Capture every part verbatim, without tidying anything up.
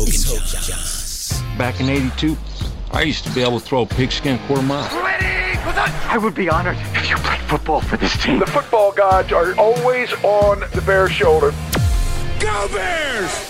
Hogan Johns. Back in eighty-two, I used to be able to throw a pigskin quarter mile. Ready for the... I would be honored if you played football for this team. The football gods are always on the Bears' shoulder. Go Bears!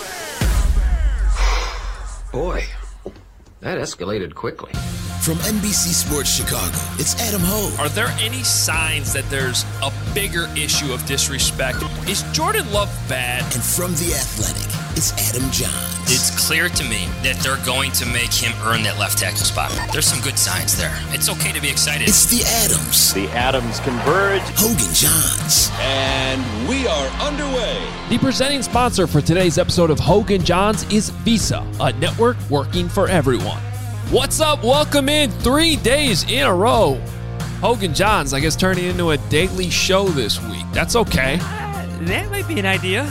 Boy, that escalated quickly. From N B C Sports Chicago, it's Adam Hogue. Are there any signs that there's a bigger issue of disrespect? Is Jordan Love bad? And from The Athletic, it's Adam Johns. It's clear to me that they're going to make him earn that left tackle spot. There's some good signs there. It's okay to be excited. It's The Adams. The Adams converge. Hogan Johns. And we are underway. The presenting sponsor for today's episode of Hogan Johns is Visa, a network working for everyone. What's up? Welcome in three days in a row. Hogan Johns, I guess, turning into a daily show this week. That's okay. Uh, that might be an idea.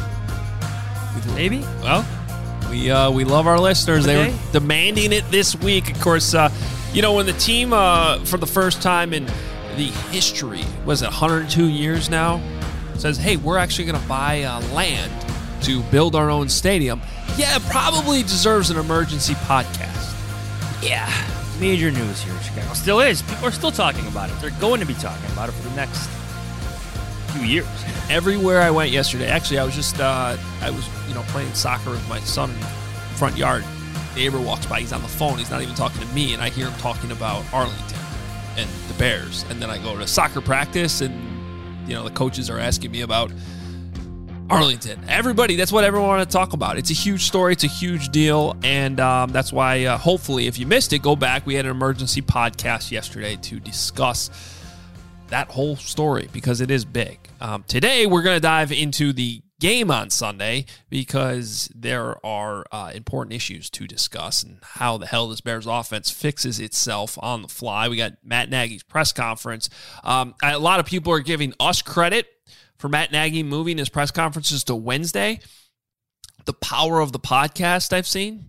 Maybe. Well, we uh, we love our listeners. Okay. They were demanding it this week. Of course, uh, you know, when the team, uh, for the first time in the history, was it one hundred two years now, says, hey, we're actually going to buy uh, land to build our own stadium. Yeah, it probably deserves an emergency podcast. Yeah, major news here in Chicago. Still is. People are still talking about it. They're going to be talking about it for the next few years. Everywhere I went yesterday, actually, I was just, uh, I was, you know, playing soccer with my son in the front yard. Neighbor walks by. He's on the phone. He's not even talking to me, and I hear him talking about Arlington and the Bears. And then I go to soccer practice, and, you know, the coaches are asking me about Arlington. Everybody, that's what everyone wanted to talk about. It's a huge story. It's a huge deal. And um, that's why, uh, hopefully, if you missed it, go back. We had an emergency podcast yesterday to discuss that whole story because it is big. Um, today, we're going to dive into the game on Sunday because there are uh, important issues to discuss and how the hell this Bears offense fixes itself on the fly. We got Matt Nagy's press conference. Um, a lot of people are giving us credit for Matt Nagy moving his press conferences to Wednesday. The power of the podcast I've seen.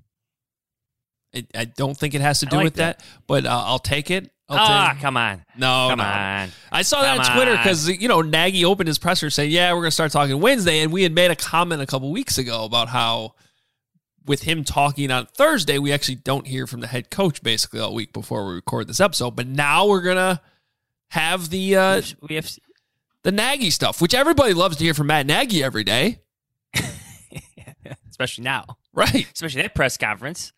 I, I don't think it has to do like with that, that but uh, I'll take it. I'll ah, take... come on. No, come no. on. I saw come that on Twitter on. because, you know, Nagy opened his presser saying, yeah, we're going to start talking Wednesday. And we had made a comment a couple weeks ago about how with him talking on Thursday, we actually don't hear from the head coach basically all week before we record this episode. But now we're going to have the uh, we have the Nagy stuff, which everybody loves to hear from Matt Nagy every day. Especially now. Right. Especially that press conference.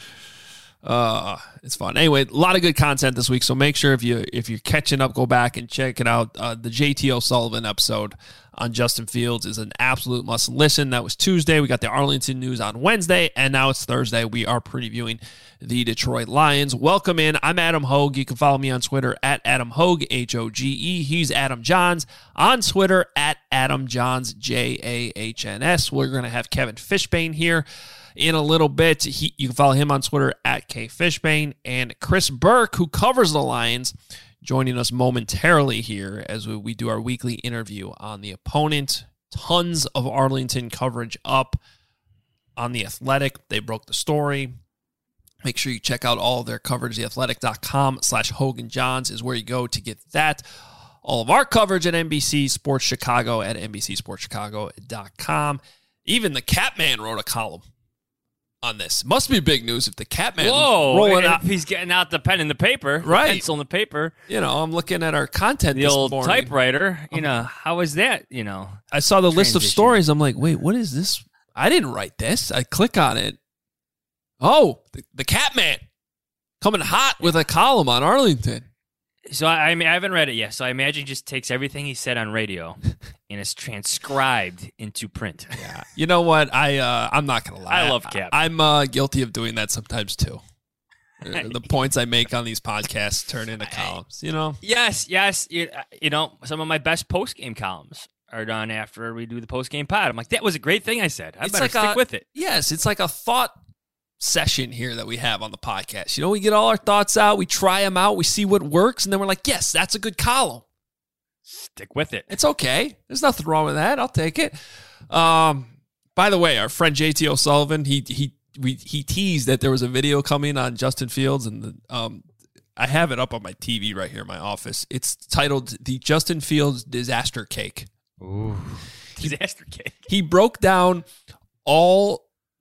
Uh, it's fun. Anyway, a lot of good content this week, so make sure if you if you're catching up, go back and check it out. Uh, the J T O'Sullivan episode on Justin Fields is an absolute must listen. That was Tuesday. We got the Arlington news on Wednesday, and now it's Thursday. We are previewing the Detroit Lions. Welcome in. I'm Adam Hogue. You can follow me on Twitter at Adam Hogue, H O G E. He's Adam Johns on Twitter at Adam Johns, J A H N S. We're going to have Kevin Fishbane here in a little bit. He, you can follow him on Twitter at K Fishbane, and Chris Burke, who covers the Lions, joining us momentarily here as we, we do our weekly interview on the opponent. Tons of Arlington coverage up on The Athletic. They broke the story. Make sure you check out all of their coverage. theathletic.com slash Hogan Johns is where you go to get that. All of our coverage at N B C Sports Chicago at N B C sports chicago dot com. Even the Catman wrote a column on this. Must be big news if the Catman Whoa, rolling out. He's getting out the pen and the paper, right? The pencil and the paper. You know, I'm looking at our content. The this old morning. typewriter. You know, how is that? You know, I saw the list of transition. stories. I'm like, wait, what is this? I didn't write this. I click on it. Oh, the, the Catman coming hot with a column on Arlington. So I, I mean, I haven't read it yet. So I imagine he just takes everything he said on radio and is transcribed into print. Yeah. You know what? I uh, I'm not gonna lie. I love Cap. I, I'm uh, guilty of doing that sometimes too. The points I make on these podcasts turn into columns. You know. Yes, yes. You, you know, some of my best post game columns are done after we do the post game pod. I'm like, that was a great thing I said. I it's better like stick a, with it. Yes, it's like a thought session here that we have on the podcast. You know, we get all our thoughts out, we try them out, we see what works, and then we're like, yes, that's a good column. Stick with it. It's okay. There's nothing wrong with that. I'll take it. Um, by the way, our friend J T O'Sullivan, he he we he teased that there was a video coming on Justin Fields, and the, um, I have it up on my T V right here in my office. It's titled "The Justin Fields Disaster Cake." Ooh, disaster cake. He broke down all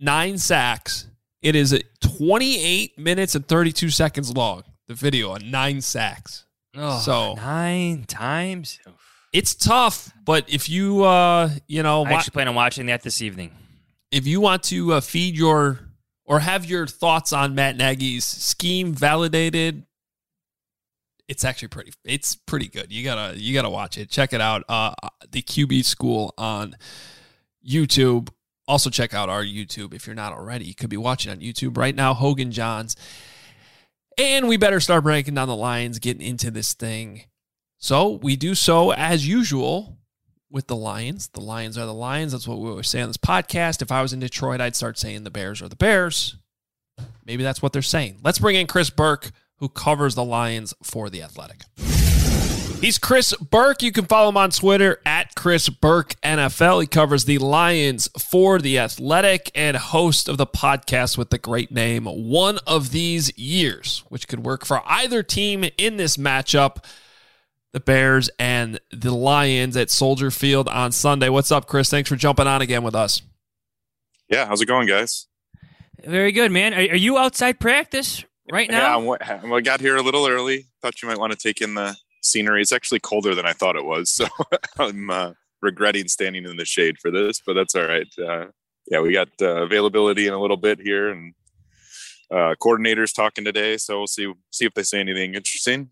nine sacks. It is twenty-eight minutes and thirty-two seconds long, the video on nine sacks. Oh, so nine times? It's tough, but if you, uh, you know. I actually plan on watching that this evening. If you want to uh, feed your, or have your thoughts on Matt Nagy's scheme validated, it's actually pretty, it's pretty good. You gotta, you gotta watch it. Check it out. Uh, the Q B School on YouTube. Also, check out our YouTube if you're not already. You could be watching on YouTube right now, Hogan Johns. And we better start breaking down the Lions, getting into this thing. So we do so as usual with the Lions. The Lions are the Lions. That's what we always say on this podcast. If I was in Detroit, I'd start saying the Bears are the Bears. Maybe that's what they're saying. Let's bring in Chris Burke, who covers the Lions for The Athletic. He's Chris Burke. You can follow him on Twitter at Chris Burke N F L. He covers the Lions for The Athletic and host of the podcast with the great name One of These Years, which could work for either team in this matchup, the Bears and the Lions at Soldier Field on Sunday. What's up, Chris? Thanks for jumping on again with us. Yeah, how's it going, guys? Very good, man. Are, are you outside practice right now? Yeah, I got here a little early. Thought you might want to take in the scenery. It's actually colder than I thought it was, so I'm uh, regretting standing in the shade for this, but that's all right. Uh, yeah, we got uh, availability in a little bit here, and uh, coordinators talking today, so we'll see see if they say anything interesting.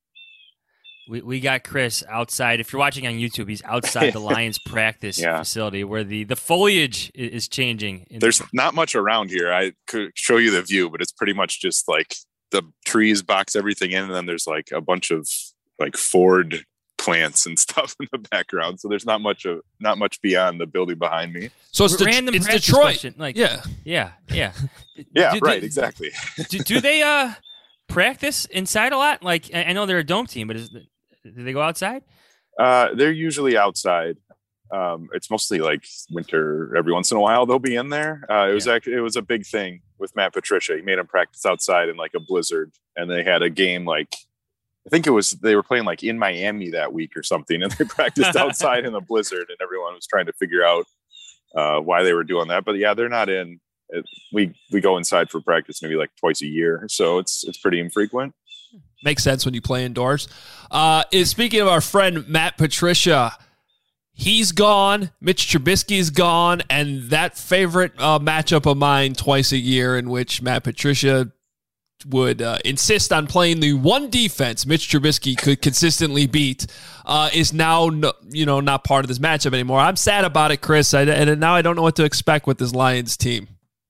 We we got Chris outside. If you're watching on YouTube, he's outside the Lions practice yeah. facility where the, the foliage is changing. There's the- not much around here. I could show you the view, but it's pretty much just like the trees box everything in, and then there's like a bunch of like Ford plants and stuff in the background. So there's not much of not much beyond the building behind me. So it's, De- random it's Detroit. Question. Like, yeah. Yeah. Yeah. yeah. Do, right. Do, exactly. do, do they uh, practice inside a lot? Like, I know they're a dome team, but is, do they go outside? Uh, they're usually outside. Um, it's mostly like winter. Every once in a while they'll be in there. Uh, it was yeah. actually, it was a big thing with Matt Patricia. He made them practice outside in like a blizzard, and they had a game like, I think it was, they were playing like in Miami that week or something, and they practiced outside in the blizzard, and everyone was trying to figure out uh, why they were doing that. But yeah, they're not in. It, we we go inside for practice maybe like twice a year, so it's it's pretty infrequent. Makes sense when you play indoors. Uh, is speaking of our friend Matt Patricia, he's gone. Mitch Trubisky's gone, and that favorite uh, matchup of mine twice a year in which Matt Patricia would uh, insist on playing the one defense Mitch Trubisky could consistently beat uh, is now, no, you know, not part of this matchup anymore. I'm sad about it, Chris, I, and now I don't know what to expect with this Lions team.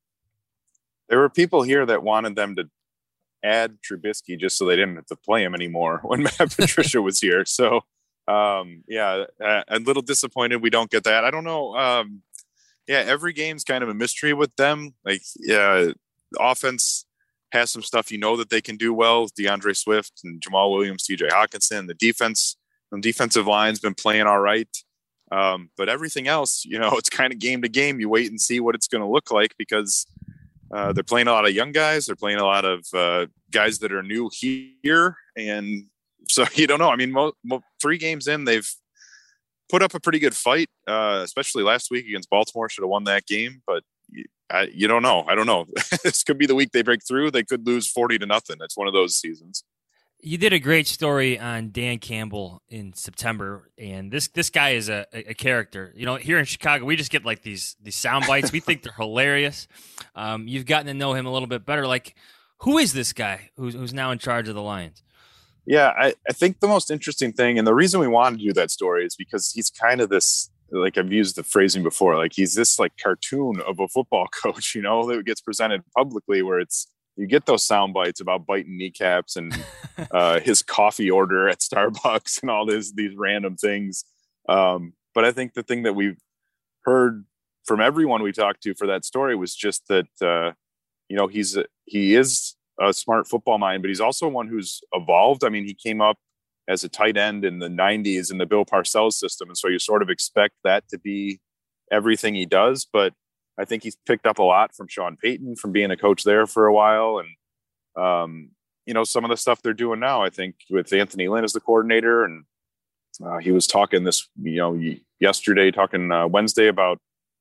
There were people here that wanted them to add Trubisky just so they didn't have to play him anymore when Matt Patricia was here. So, um, yeah, uh, a little disappointed we don't get that. I don't know. Um, yeah, every game's kind of a mystery with them. Like, yeah, the offense has some stuff you know that they can do well. DeAndre Swift and Jamal Williams, T J Hawkinson. The defense, the defensive line's been playing all right. Um, but everything else, you know, it's kind of game to game. You wait and see what it's going to look like because uh, they're playing a lot of young guys. They're playing a lot of uh, guys that are new here. And so you don't know. I mean, mo- mo- three games in, they've put up a pretty good fight, uh, especially last week against Baltimore. Should have won that game, but I, you don't know. I don't know. This could be the week they break through. They could lose forty to nothing. It's one of those seasons. You did a great story on Dan Campbell in September, and this this guy is a, a character. You know, here in Chicago, we just get like these these sound bites. We think they're hilarious. Um, you've gotten to know him a little bit better. Like, who is this guy who's who's now in charge of the Lions? Yeah, I, I think the most interesting thing, and the reason we wanted to do that story is because he's kind of this, like I've used the phrasing before, like he's this like cartoon of a football coach, you know, that gets presented publicly where it's, you get those sound bites about biting kneecaps and uh, his coffee order at Starbucks and all this, these random things. Um, but I think the thing that we've heard from everyone we talked to for that story was just that, uh, you know, he's, he is a smart football mind, but he's also one who's evolved. I mean, he came up as a tight end in the nineties in the Bill Parcells system. And so you sort of expect that to be everything he does. But I think he's picked up a lot from Sean Payton, from being a coach there for a while. And, um, you know, some of the stuff they're doing now, I think with Anthony Lynn as the coordinator, and uh, he was talking this, you know, yesterday, talking uh, Wednesday about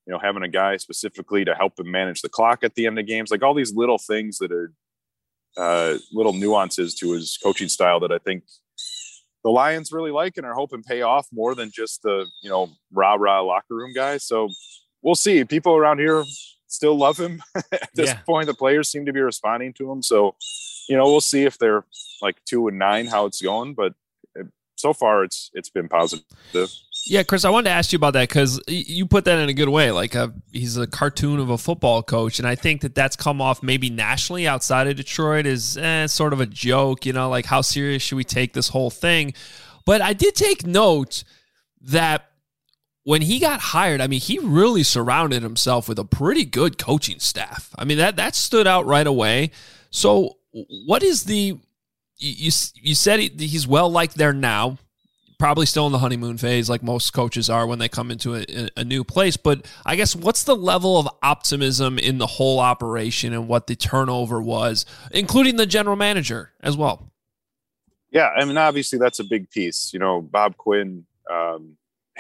you know, having a guy specifically to help him manage the clock at the end of games, like all these little things that are uh, little nuances to his coaching style that I think the Lions really like and are hoping pay off more than just the, you know, rah rah locker room guy. So we'll see. People around here still love him at this yeah. point. The players seem to be responding to him. So, you know, we'll see if they're like two and nine, how it's going, but so far it's, it's been positive. Yeah, Chris, I wanted to ask you about that because you put that in a good way. Like a, he's a cartoon of a football coach, and I think that that's come off maybe nationally outside of Detroit as eh, sort of a joke, you know, like how serious should we take this whole thing? But I did take note that when he got hired, I mean, he really surrounded himself with a pretty good coaching staff. I mean, that that stood out right away. So what is the – you you said he, he's well-liked there now. Probably still in the honeymoon phase like most coaches are when they come into a, a new place. But I guess what's the level of optimism in the whole operation and what the turnover was, including the general manager as well? Yeah, I mean, obviously that's a big piece. You know, Bob Quinn, um,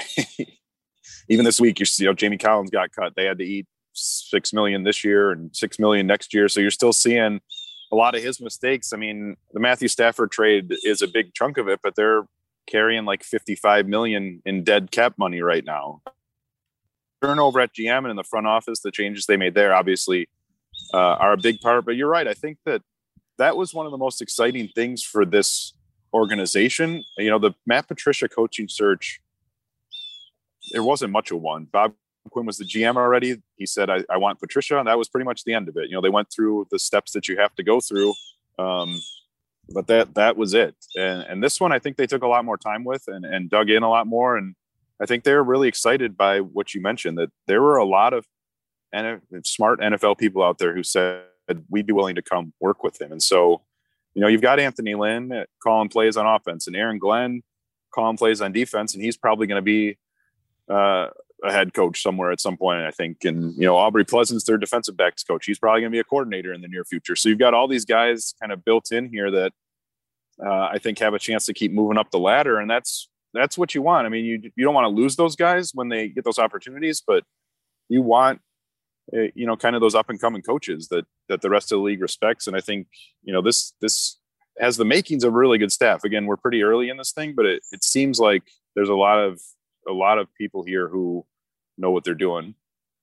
even this week, you know, Jamie Collins got cut. They had to eat six million dollars this year and six million dollars next year. So you're still seeing a lot of his mistakes. I mean, the Matthew Stafford trade is a big chunk of it, but they're carrying like fifty-five million dollars in dead cap money right now. Turnover at G M and in the front office, the changes they made there obviously uh, are a big part. But you're right. I think that that was one of the most exciting things for this organization. You know, the Matt Patricia coaching search, there wasn't much of one. Bob Quinn was the G M already. He said, I, I want Patricia. And that was pretty much the end of it. You know, they went through the steps that you have to go through. Um, But that that was it. And, and this one, I think they took a lot more time with and, and dug in a lot more. And I think they were really excited by what you mentioned, that there were a lot of N F L, smart N F L people out there who said we'd be willing to come work with him. And so, you know, you've got Anthony Lynn calling plays on offense and Aaron Glenn calling plays on defense. And he's probably going to be uh, a head coach somewhere at some point, I think. And, you know, Aubrey Pleasant's their defensive backs coach. He's probably going to be a coordinator in the near future. So you've got all these guys kind of built in here that uh, I think have a chance to keep moving up the ladder. And that's, that's what you want. I mean, you, you don't want to lose those guys when they get those opportunities, but you want, uh, you know, kind of those up and coming coaches that, that the rest of the league respects. And I think, you know, this, this has the makings of really good staff. Again, we're pretty early in this thing, but it, it seems like there's a lot of, a lot of people here who know what they're doing.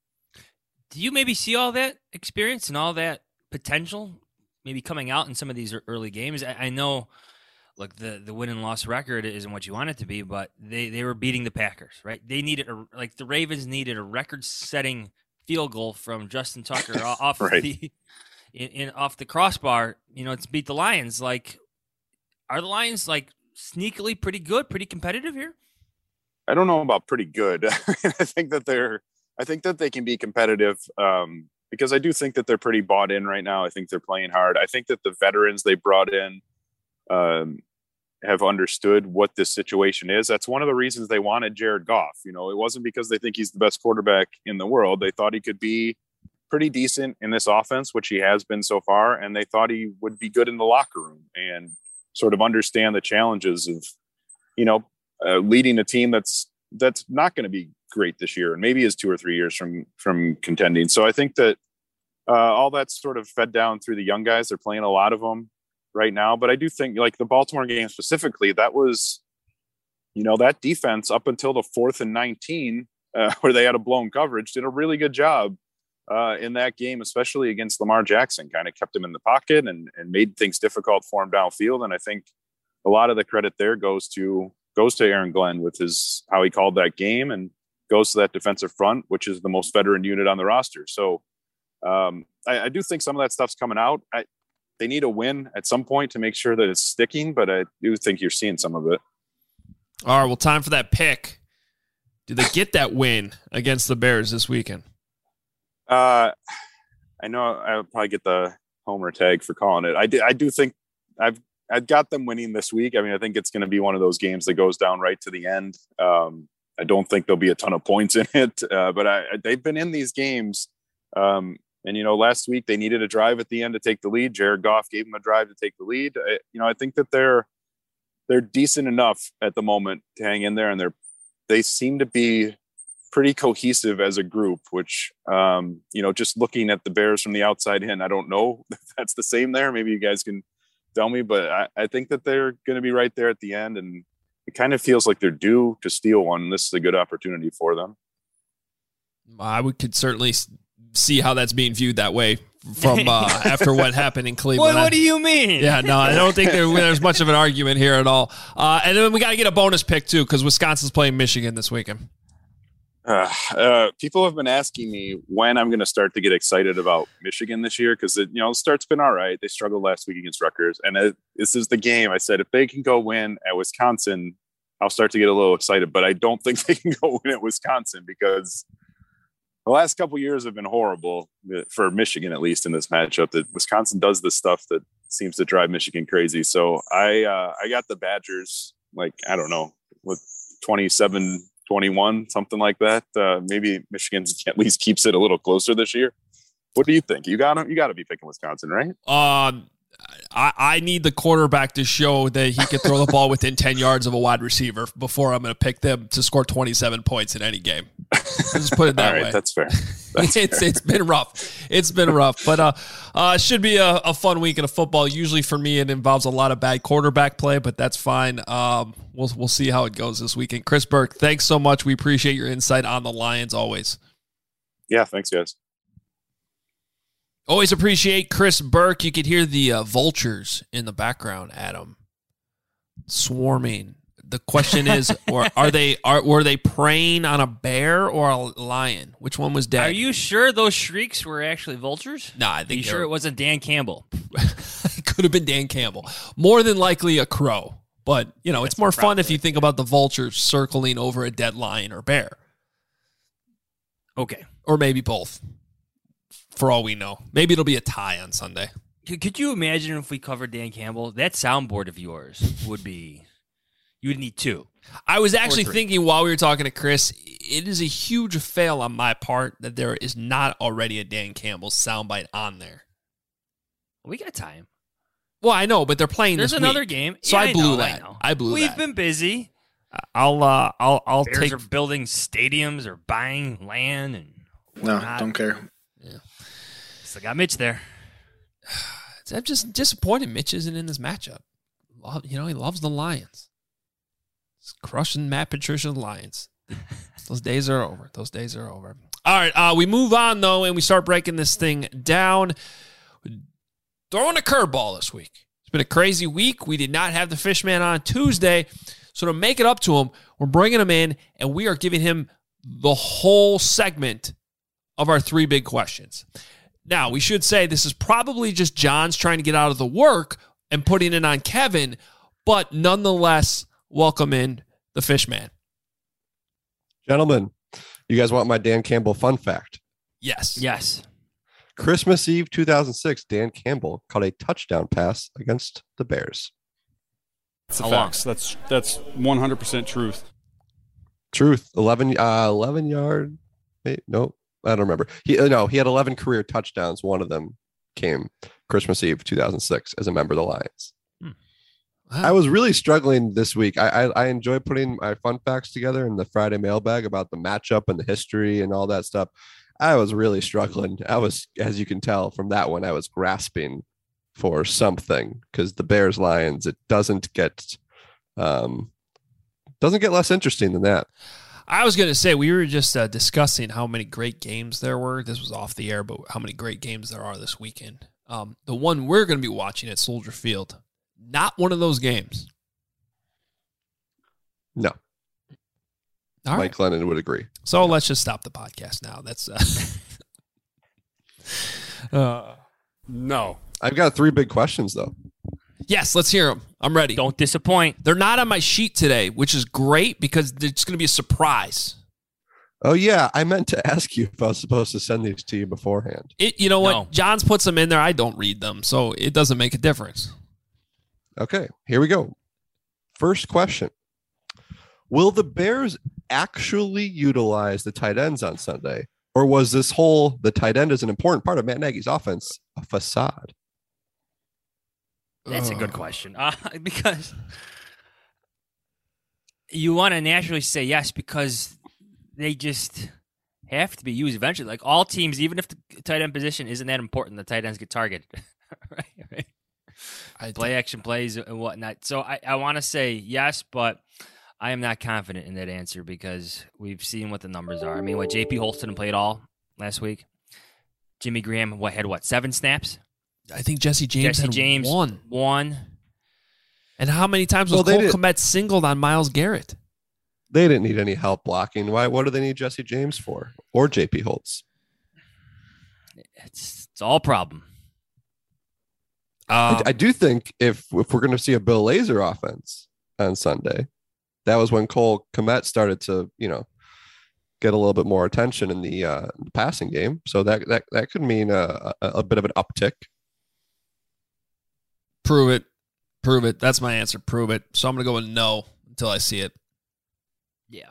Do you maybe see all that experience and all that potential maybe coming out in some of these early games? I, I know, look, the, the win and loss record isn't what you want it to be, but they, they were beating the Packers, right? They needed a, like the Ravens needed a record setting field goal from Justin Tucker off right. the, in, in off the crossbar, you know, to beat the Lions. Like, are the Lions like sneakily pretty good, pretty competitive here? I don't know about pretty good. I think that they're, I think that they can be competitive um, because I do think that they're pretty bought in right now. I think they're playing hard. I think that the veterans they brought in um, have understood what this situation is. That's one of the reasons they wanted Jared Goff. You know, it wasn't because they think he's the best quarterback in the world. They thought he could be pretty decent in this offense, which he has been so far. And they thought he would be good in the locker room and sort of understand the challenges of, you know, Uh, leading a team that's that's not going to be great this year and maybe is two or three years from from contending. So I think that uh, all that's sort of fed down through the young guys. They're playing a lot of them right now. But I do think like the Baltimore game specifically, that was, you know, that defense up until the fourth and nineteen uh, where they had a blown coverage did a really good job uh, in that game, especially against Lamar Jackson, kind of kept him in the pocket and, and made things difficult for him downfield. And I think a lot of the credit there goes to goes to Aaron Glenn with his, how he called that game, and goes to that defensive front, which is the most veteran unit on the roster. So um, I, I do think some of that stuff's coming out. I, they need a win at some point to make sure that it's sticking, but I do think you're seeing some of it. All right. Well, time for that pick. Do they get that win against the Bears this weekend? Uh, I know I'll probably get the homer tag for calling it. I do, I do think I've, I've got them winning this week. I mean, I think it's going to be one of those games that goes down right to the end. Um, I don't think there'll be a ton of points in it, uh, but I, they've been in these games. Um, and, you know, last week they needed a drive at the end to take the lead. Jared Goff gave them a drive to take the lead. I, you know, I think that they're, they're decent enough at the moment to hang in there, and they're, they seem to be pretty cohesive as a group, which, um, you know, just looking at the Bears from the outside in, I don't know if that's the same there. Maybe you guys can tell me, but I, I think that they're going to be right there at the end. And it kind of feels like they're due to steal one. This is a good opportunity for them. I would could certainly see how that's being viewed that way from uh, after what happened in Cleveland. What, what do you mean? Yeah, no, I don't think there, there's much of an argument here at all. Uh, and then we got to get a bonus pick too, because Wisconsin's playing Michigan this weekend. Uh, uh, people have been asking me when I'm going to start to get excited about Michigan this year, because you know the start's been all right. They struggled last week against Rutgers, and it, this is the game. I said if they can go win at Wisconsin, I'll start to get a little excited. But I don't think they can go win at Wisconsin because the last couple of years have been horrible for Michigan, at least in this matchup. That Wisconsin does the stuff that seems to drive Michigan crazy. So I uh, I got the Badgers, like I don't know, with twenty-seven twenty-one, something like that. Uh, maybe Michigan at least keeps it a little closer this year. What do you think? You got to you got to be picking Wisconsin, right? Um, I, I need the quarterback to show that he can throw the ball within ten yards of a wide receiver before I'm going to pick them to score twenty-seven points in any game. Let's put it that All right, way. That's fair. That's it's fair. It's been rough. It's been rough, but uh, uh, should be a, a fun weekend of football. Usually for me, it involves a lot of bad quarterback play, but that's fine. Um, we'll we'll see how it goes this weekend. Chris Burke, thanks so much. We appreciate your insight on the Lions always. Yeah, thanks, guys. Always appreciate Chris Burke. You could hear the uh, vultures in the background, Adam, swarming. The question is, or are they are were they preying on a bear or a lion? Which one was dead? Are you sure those shrieks were actually vultures? No, nah, I think. Are you sure it wasn't Dan Campbell? It could have been Dan Campbell. More than likely a crow. But you know, That's it's more fun if you think about the vultures circling over a dead lion or bear. Okay, or maybe both. For all we know, maybe it'll be a tie on Sunday. Could you imagine if we covered Dan Campbell? That soundboard of yours would be. You would need two. I was actually thinking while we were talking to Chris, it is a huge fail on my part that there is not already a Dan Campbell soundbite on there. We got time. Well, I know, but they're playing There's this another week. game. So yeah, I blew I know, that. I, know. I blew We've that. We've been busy. I'll uh, I'll I'll Bears take are building stadiums or buying land and no, whatnot. don't care. Yeah. Still got Mitch there. I'm just disappointed Mitch isn't in this matchup. You know, he loves the Lions. He's crushing Matt Patricia's Lions. Those days are over. Those days are over. All right, uh, we move on, though, and we start breaking this thing down. Throwing a curveball this week. It's been a crazy week. We did not have the Fishman on Tuesday, so to make it up to him, we're bringing him in, and we are giving him the whole segment of our three big questions. Now, we should say this is probably just John's trying to get out of the work and putting it on Kevin, but nonetheless, welcome in the Fishman. Gentlemen, you guys want my Dan Campbell fun fact? Yes. Yes. Christmas Eve two thousand six, Dan Campbell caught a touchdown pass against the Bears. That's the facts. That's that's one hundred percent truth. Truth. eleven, uh, eleven yard. Wait, no, I don't remember. He uh, no, he had eleven career touchdowns. One of them came Christmas Eve two thousand six as a member of the Lions. Hmm. Wow. I was really struggling this week. I, I I enjoy putting my fun facts together in the Friday mailbag about the matchup and the history and all that stuff. I was really struggling. I was, as you can tell from that one, I was grasping for something because the Bears Lions, it doesn't get um doesn't get less interesting than that. I was going to say, we were just uh, discussing how many great games there were. This was off the air, but how many great games there are this weekend. Um, the one we're going to be watching at Soldier Field, not one of those games. No. All Mike right. Lennon would agree. So let's just stop the podcast now. That's uh, uh, no. I've got three big questions, though. Yes, let's hear them. I'm ready. Don't disappoint. They're not on my sheet today, which is great because it's going to be a surprise. Oh, yeah. I meant to ask you if I was supposed to send these to you beforehand. It, you know what? No. John's puts them in there. I don't read them, so it doesn't make a difference. Okay, here we go. First question. Will the Bears actually utilize the tight ends on Sunday? Or was this whole, the tight end is an important part of Matt Nagy's offense, a facade? That's a good question. Uh, because you want to naturally say yes, because they just have to be used eventually. Like all teams, even if the tight end position isn't that important, the tight ends get targeted. right, right. I Play action plays and whatnot. So I, I want to say yes, but I am not confident in that answer because we've seen what the numbers are. I mean, what J P Holston played all last week. Jimmy Graham what had what seven snaps? I think Jesse James Jesse had James one. One. And how many times was well, Cole Kmet singled on Myles Garrett? They didn't need any help blocking. Why? What do they need Jesse James for? Or J P Holtz? It's it's all problem. Um, I, I do think if if we're going to see a Bill Lazor offense on Sunday, that was when Cole Kmet started to, you know, get a little bit more attention in the uh, passing game. So that that that could mean a, a, a bit of an uptick. Prove it. Prove it. That's my answer. Prove it. So I'm going to go with no until I see it. Yeah.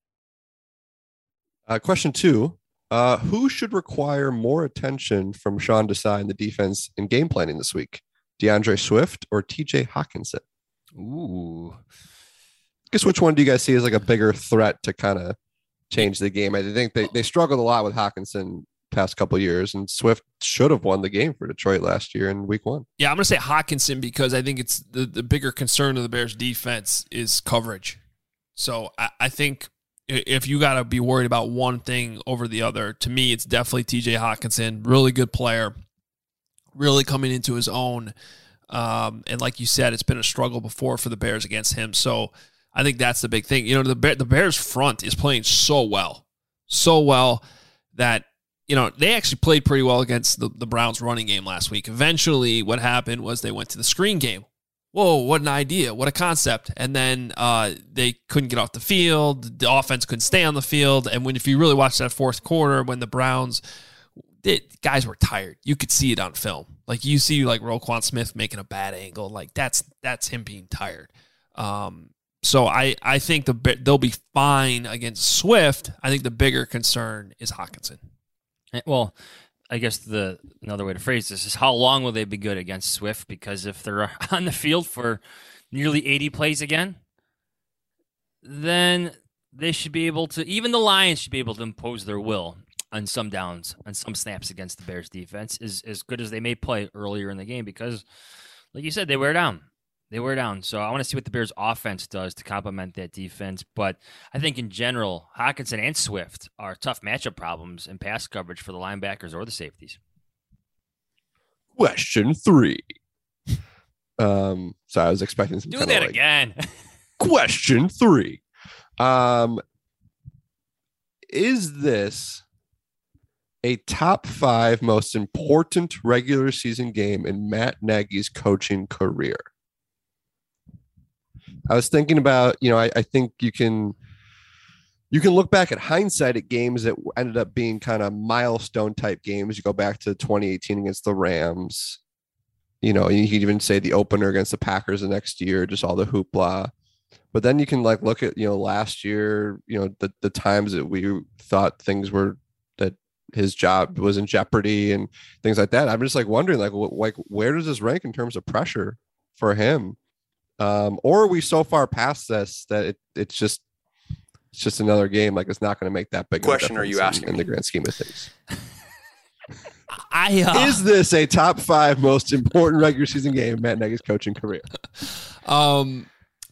Uh, question two. Uh, who should require more attention from Sean Desai in the defense in game planning this week? DeAndre Swift or T J Hockenson? Ooh. Guess which one do you guys see as like a bigger threat to kind of change the game? I think they, they struggled a lot with Hockenson past couple of years, and Swift should have won the game for Detroit last year in week one. Yeah, I'm going to say Hockenson because I think it's the, the bigger concern of the Bears defense is coverage. So I, I think if you got to be worried about one thing over the other, to me, it's definitely T J Hockenson. Really good player, really coming into his own. Um, and like you said, it's been a struggle before for the Bears against him. So I think that's the big thing. You know, the Bear, the Bears front is playing so well, so well that, you know, they actually played pretty well against the, the Browns running game last week. Eventually what happened was they went to the screen game. Whoa, what an idea. What a concept. And then uh, they couldn't get off the field. The offense couldn't stay on the field. And when if you really watch that fourth quarter, when the Browns, they, guys were tired. You could see it on film. Like you see like Roquan Smith making a bad angle. Like that's that's him being tired. Um, so I, I think the they'll be fine against Swift. I think the bigger concern is Hockenson. Well, I guess the another way to phrase this is how long will they be good against Swift? Because if they're on the field for nearly eighty plays again, then they should be able to, even the Lions should be able to impose their will on some downs, on some snaps against the Bears defense, is as good as they may play earlier in the game because, like you said, they wear down. They wear down. So I want to see what the Bears offense does to complement that defense. But I think in general, Hockenson and Swift are tough matchup problems in pass coverage for the linebackers or the safeties. Question three. Um, so I was expecting some Do kind that of like, again. Question three. Um, is this a top five most important regular season game in Matt Nagy's coaching career? I was thinking about, you know, I, I think you can you can look back at hindsight at games that ended up being kind of milestone type games. You go back to twenty eighteen against the Rams. You know, you could even say the opener against the Packers the next year, just all the hoopla. But then you can like look at, you know, last year, you know, the, the times that we thought things were, that his job was in jeopardy and things like that. I'm just like wondering, like, like where does this rank in terms of pressure for him? Um, or are we so far past this that it, it's just it's just another game? Like it's not going to make that big question. Are you asking in, in me? the grand scheme of things? I uh, is this a top five most important regular season game in Matt Nagy's coaching career? Um,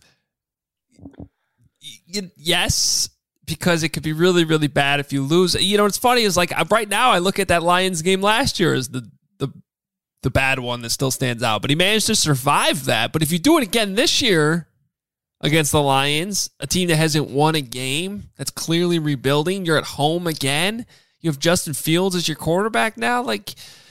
y- yes, because it could be really, really bad if you lose. You know, what's funny is like right now I look at that Lions game last year as the the the bad one that still stands out, but he managed to survive that. But if you do it again this year against the Lions, a team that hasn't won a game, that's clearly rebuilding, you're at home again, you have Justin Fields as your quarterback now, like,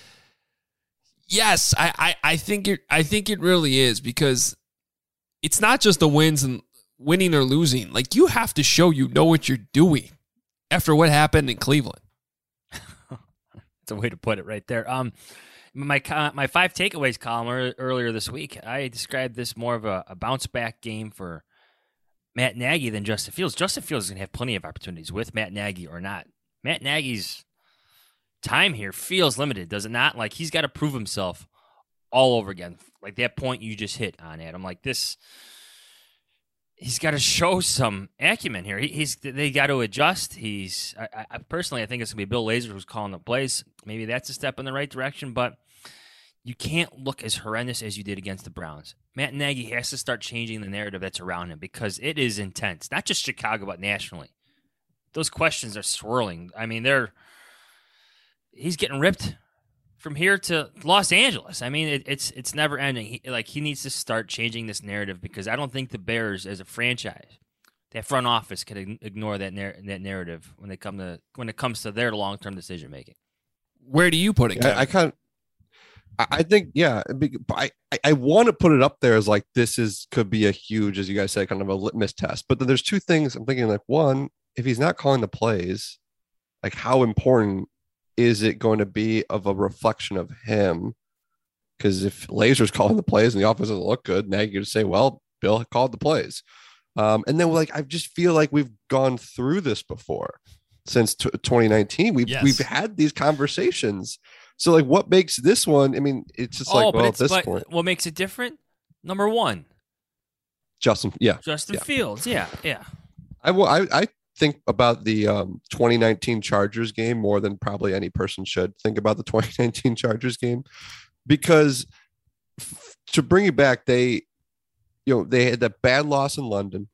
yes, I, I, I think it I think it really is, because it's not just the wins and winning or losing. Like, you have to show you know what you're doing after what happened in Cleveland. That's a way to put it right there. Um My my five takeaways column earlier this week, I described this more of a, a bounce back game for Matt Nagy than Justin Fields. Justin Fields is going to have plenty of opportunities with Matt Nagy or not. Matt Nagy's time here feels limited, does it not? Like he's got to prove himself all over again. Like that point you just hit on, Adam. Like this, he's got to show some acumen here. He, he's they got to adjust. He's I, I personally I think it's gonna be Bill Lazor who's calling the plays. Maybe that's a step in the right direction, but you can't look as horrendous as you did against the Browns. Matt Nagy has to start changing the narrative that's around him because it is intense. Not just Chicago, but nationally. Those questions are swirling. I mean, they're he's getting ripped from here to Los Angeles. I mean, it, it's it's never ending. He, like he needs to start changing this narrative because I don't think the Bears, as a franchise, that front office, can ignore that nar- that narrative when they come to when it comes to their long term decision making. Where do you put it? I, I kind of. I think, yeah, I, I want to put it up there as like this is could be a huge, as you guys said, kind of a litmus test. But then there's two things I'm thinking, like, one, if he's not calling the plays, like how important is it going to be of a reflection of him? Because if Lazor's calling the plays and the offense doesn't look good, now you say, well, Bill called the plays. Um, and then like I just feel like we've gone through this before since t- twenty nineteen. We've yes. we've had these conversations. So, like, what makes this one? I mean, it's just like, oh, well, but at this but point, what makes it different? Number one, Justin, yeah, Justin yeah. Fields, yeah, yeah. I will. I, I think about the um, twenty nineteen Chargers game more than probably any person should think about the twenty nineteen Chargers game, because f- to bring it back, they, you know, they had that bad loss in London.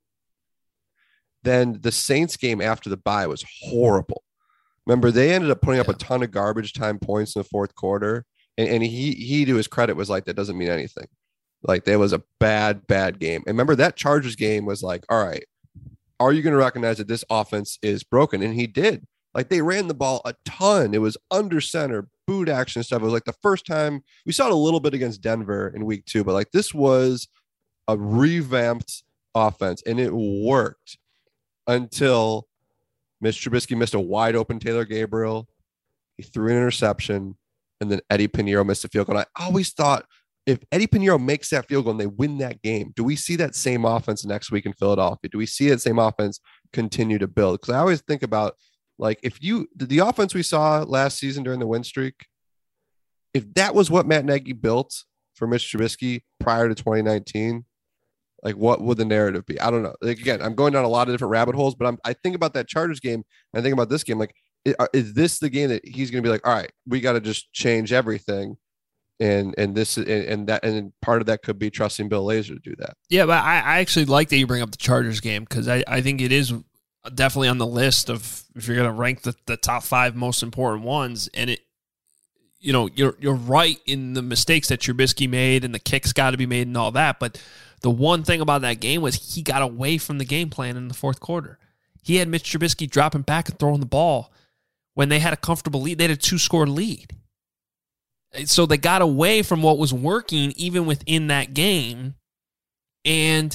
Then the Saints game after the bye was horrible. Remember, they ended up putting up a ton of garbage time points in the fourth quarter. And, and he, he, to his credit, was like, that doesn't mean anything. Like, there was a bad, bad game. And remember, that Chargers game was like, all right, are you going to recognize that this offense is broken? And he did. Like, they ran the ball a ton. It was under center, boot action stuff. It was like the first time we saw it a little bit against Denver in week two, but like this was a revamped offense, and it worked until Mitch Trubisky missed a wide open Taylor Gabriel. He threw an interception, and then Eddie Pinheiro missed a field goal. And I always thought if Eddie Pinheiro makes that field goal and they win that game, do we see that same offense next week in Philadelphia? Do we see that same offense continue to build? Because I always think about, like, if you the offense we saw last season during the win streak, if that was what Matt Nagy built for Mitch Trubisky prior to twenty nineteen, like, what would the narrative be? I don't know. Like, again, I'm going down a lot of different rabbit holes, but I'm, I think about that Chargers game, and I think about this game. Like, is, is this the game that he's going to be like, all right, we got to just change everything, and and this and, and that and part of that could be trusting Bill Lazor to do that. Yeah, but I, I actually like that you bring up the Chargers game because I, I think it is definitely on the list of if you're going to rank the, the top five most important ones, and it. You know, you're you're right in the mistakes that Trubisky made and the kicks got to be made and all that. But the one thing about that game was he got away from the game plan in the fourth quarter. He had Mitch Trubisky dropping back and throwing the ball when they had a comfortable lead. They had a two-score lead. So they got away from what was working even within that game. And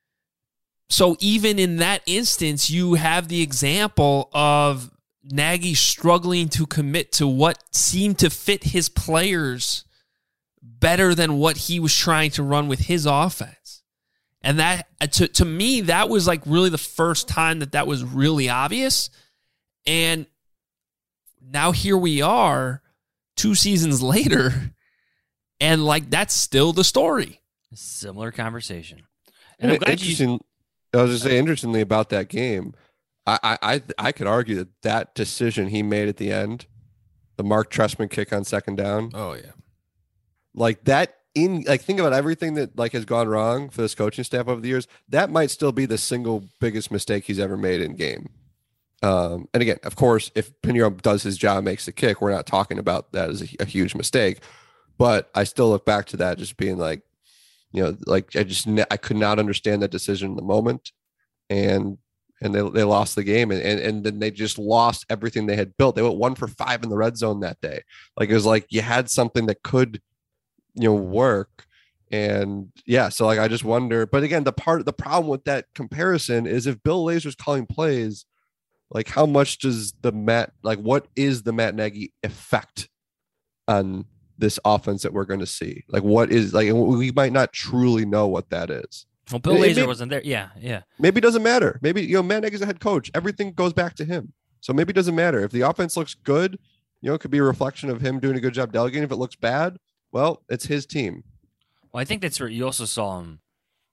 so even in that instance, you have the example of Nagy struggling to commit to what seemed to fit his players better than what he was trying to run with his offense. And that, to, to me, that was like really the first time that that was really obvious. And now here we are two seasons later, and like that's still the story. Similar conversation. And, and interesting, you... I was just saying, interestingly about that game, I, I I could argue that that decision he made at the end, the Mark Trestman kick on second down. Oh yeah, like that. In like think about everything that like has gone wrong for this coaching staff over the years. That might still be the single biggest mistake he's ever made in game. Um, and again, of course, if Pinheiro does his job, makes the kick, we're not talking about that as a, a huge mistake. But I still look back to that just being like, you know, like I just I could not understand that decision in the moment, and. And they they lost the game, and, and and then they just lost everything they had built. They went one for five in the red zone that day. Like it was like you had something that could, you know, work. And yeah, so like I just wonder. But again, the part the problem with that comparison is if Bill Lazor's calling plays, like how much does the Matt like what is the Matt Nagy effect on this offense that we're going to see? Like what is like we might not truly know what that is. Well, Bill Lazor maybe, wasn't there. Yeah, yeah. Maybe it doesn't matter. Maybe, you know, Matt Nagy's a head coach. Everything goes back to him. So maybe it doesn't matter. If the offense looks good, you know, it could be a reflection of him doing a good job delegating. If it looks bad, well, it's his team. Well, I think that's where you also saw him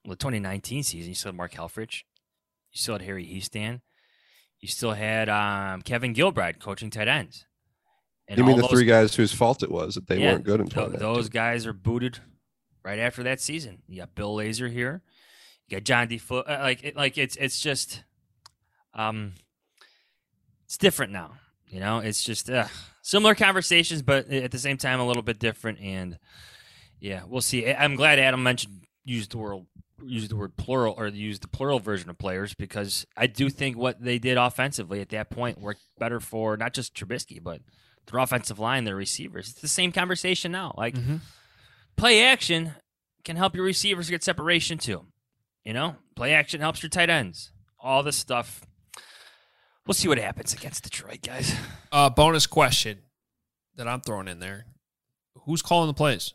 the twenty nineteen season, you still had Mark Helfrich. You still had Harry Hiestand. You still had um, Kevin Gilbride coaching tight ends. And you mean the those, three guys whose fault it was that they yeah, weren't good in th- Those guys are booted right after that season. You got Bill Lazor here. You got John D. Fo- uh, like, it, like it's it's just, um, it's different now. You know, it's just uh, similar conversations, but at the same time, a little bit different. And yeah, we'll see. I'm glad Adam mentioned used the word used the word plural or used the plural version of players, because I do think what they did offensively at that point worked better for not just Trubisky, but their offensive line, their receivers. It's the same conversation now. Like mm-hmm. play action can help your receivers get separation too. You know, play action helps your tight ends. All this stuff. We'll see what happens against Detroit, guys. Uh, bonus question that I'm throwing in there. Who's calling the plays?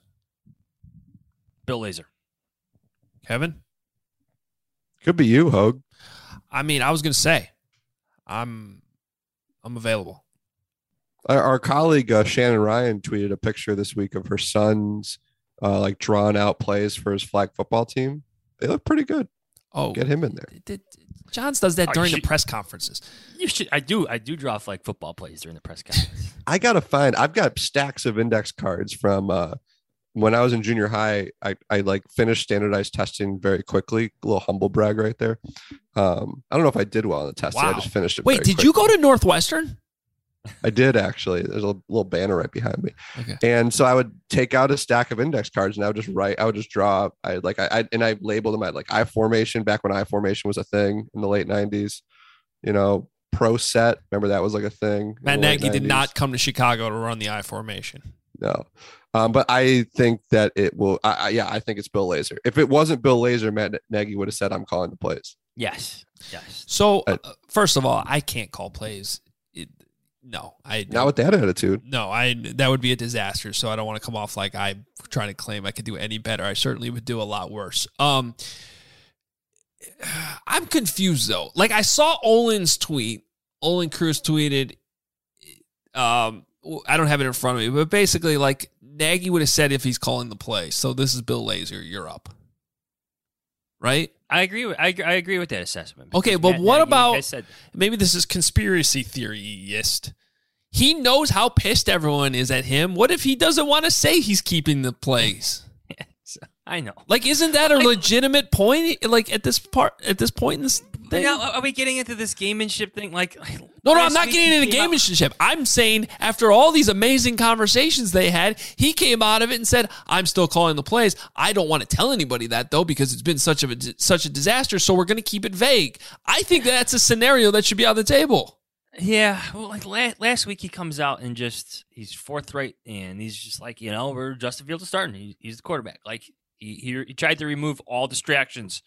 Bill Lazor. Kevin? Could be you, Hogue. I mean, I was going to say, I'm I'm available. Our, our colleague uh, Shannon Ryan tweeted a picture this week of her son's uh, like drawn out plays for his flag football team. They look pretty good. Oh, get him in there. Did, Johns does that oh, during should, the press conferences. You should. I do. I do draw flag football plays during the press conference. I gotta find. I've got stacks of index cards from uh, when I was in junior high. I, I like finished standardized testing very quickly. A little humble brag right there. Um, I don't know if I did well on the testing. Wow. I just finished it. Wait, very did quickly. you go to Northwestern? I did actually. There's a little banner right behind me. Okay. And so I would take out a stack of index cards and I would just write, I would just draw, I like, I, I and I labeled them. I had like I formation back when I formation was a thing in the late nineties, you know, pro set. Remember that was like a thing. Matt Nagy did not come to Chicago to run the I formation. No. Um, but I think that it will. I, I, yeah, I think it's Bill Lazor. If it wasn't Bill Lazor, Matt Nagy would have said, I'm calling the plays. Yes. Yes. So uh, first of all, I can't call plays. It, No, I not with that attitude. No, I that would be a disaster. So I don't want to come off like I'm trying to claim I could do any better. I certainly would do a lot worse. Um, I'm confused though. Like I saw Olin's tweet. Olin Cruz tweeted. Um, I don't have it in front of me, but basically, like Nagy would have said if he's calling the play. So this is Bill Lazor. You're up, right? I agree with I, I agree with that assessment. Okay, but Matt what Nagy, about like I said, maybe this is conspiracy theoryist. He knows how pissed everyone is at him. What if he doesn't want to say he's keeping the plays? yes, I know. Like, isn't that a like, legitimate point? Like at this part, at this point in this thing. Now, are we getting into this gamemanship thing? Like, no, no, I'm not getting into gamemanship. I'm saying after all these amazing conversations they had, he came out of it and said, "I'm still calling the plays. I don't want to tell anybody that though because it's been such of a such a disaster. So we're going to keep it vague." I think that's a scenario that should be on the table. Yeah, well, like last, last week he comes out and just he's forthright and he's just like, you know, we're Justin Fields is starting. He, he's the quarterback. Like he, he he tried to remove all distractions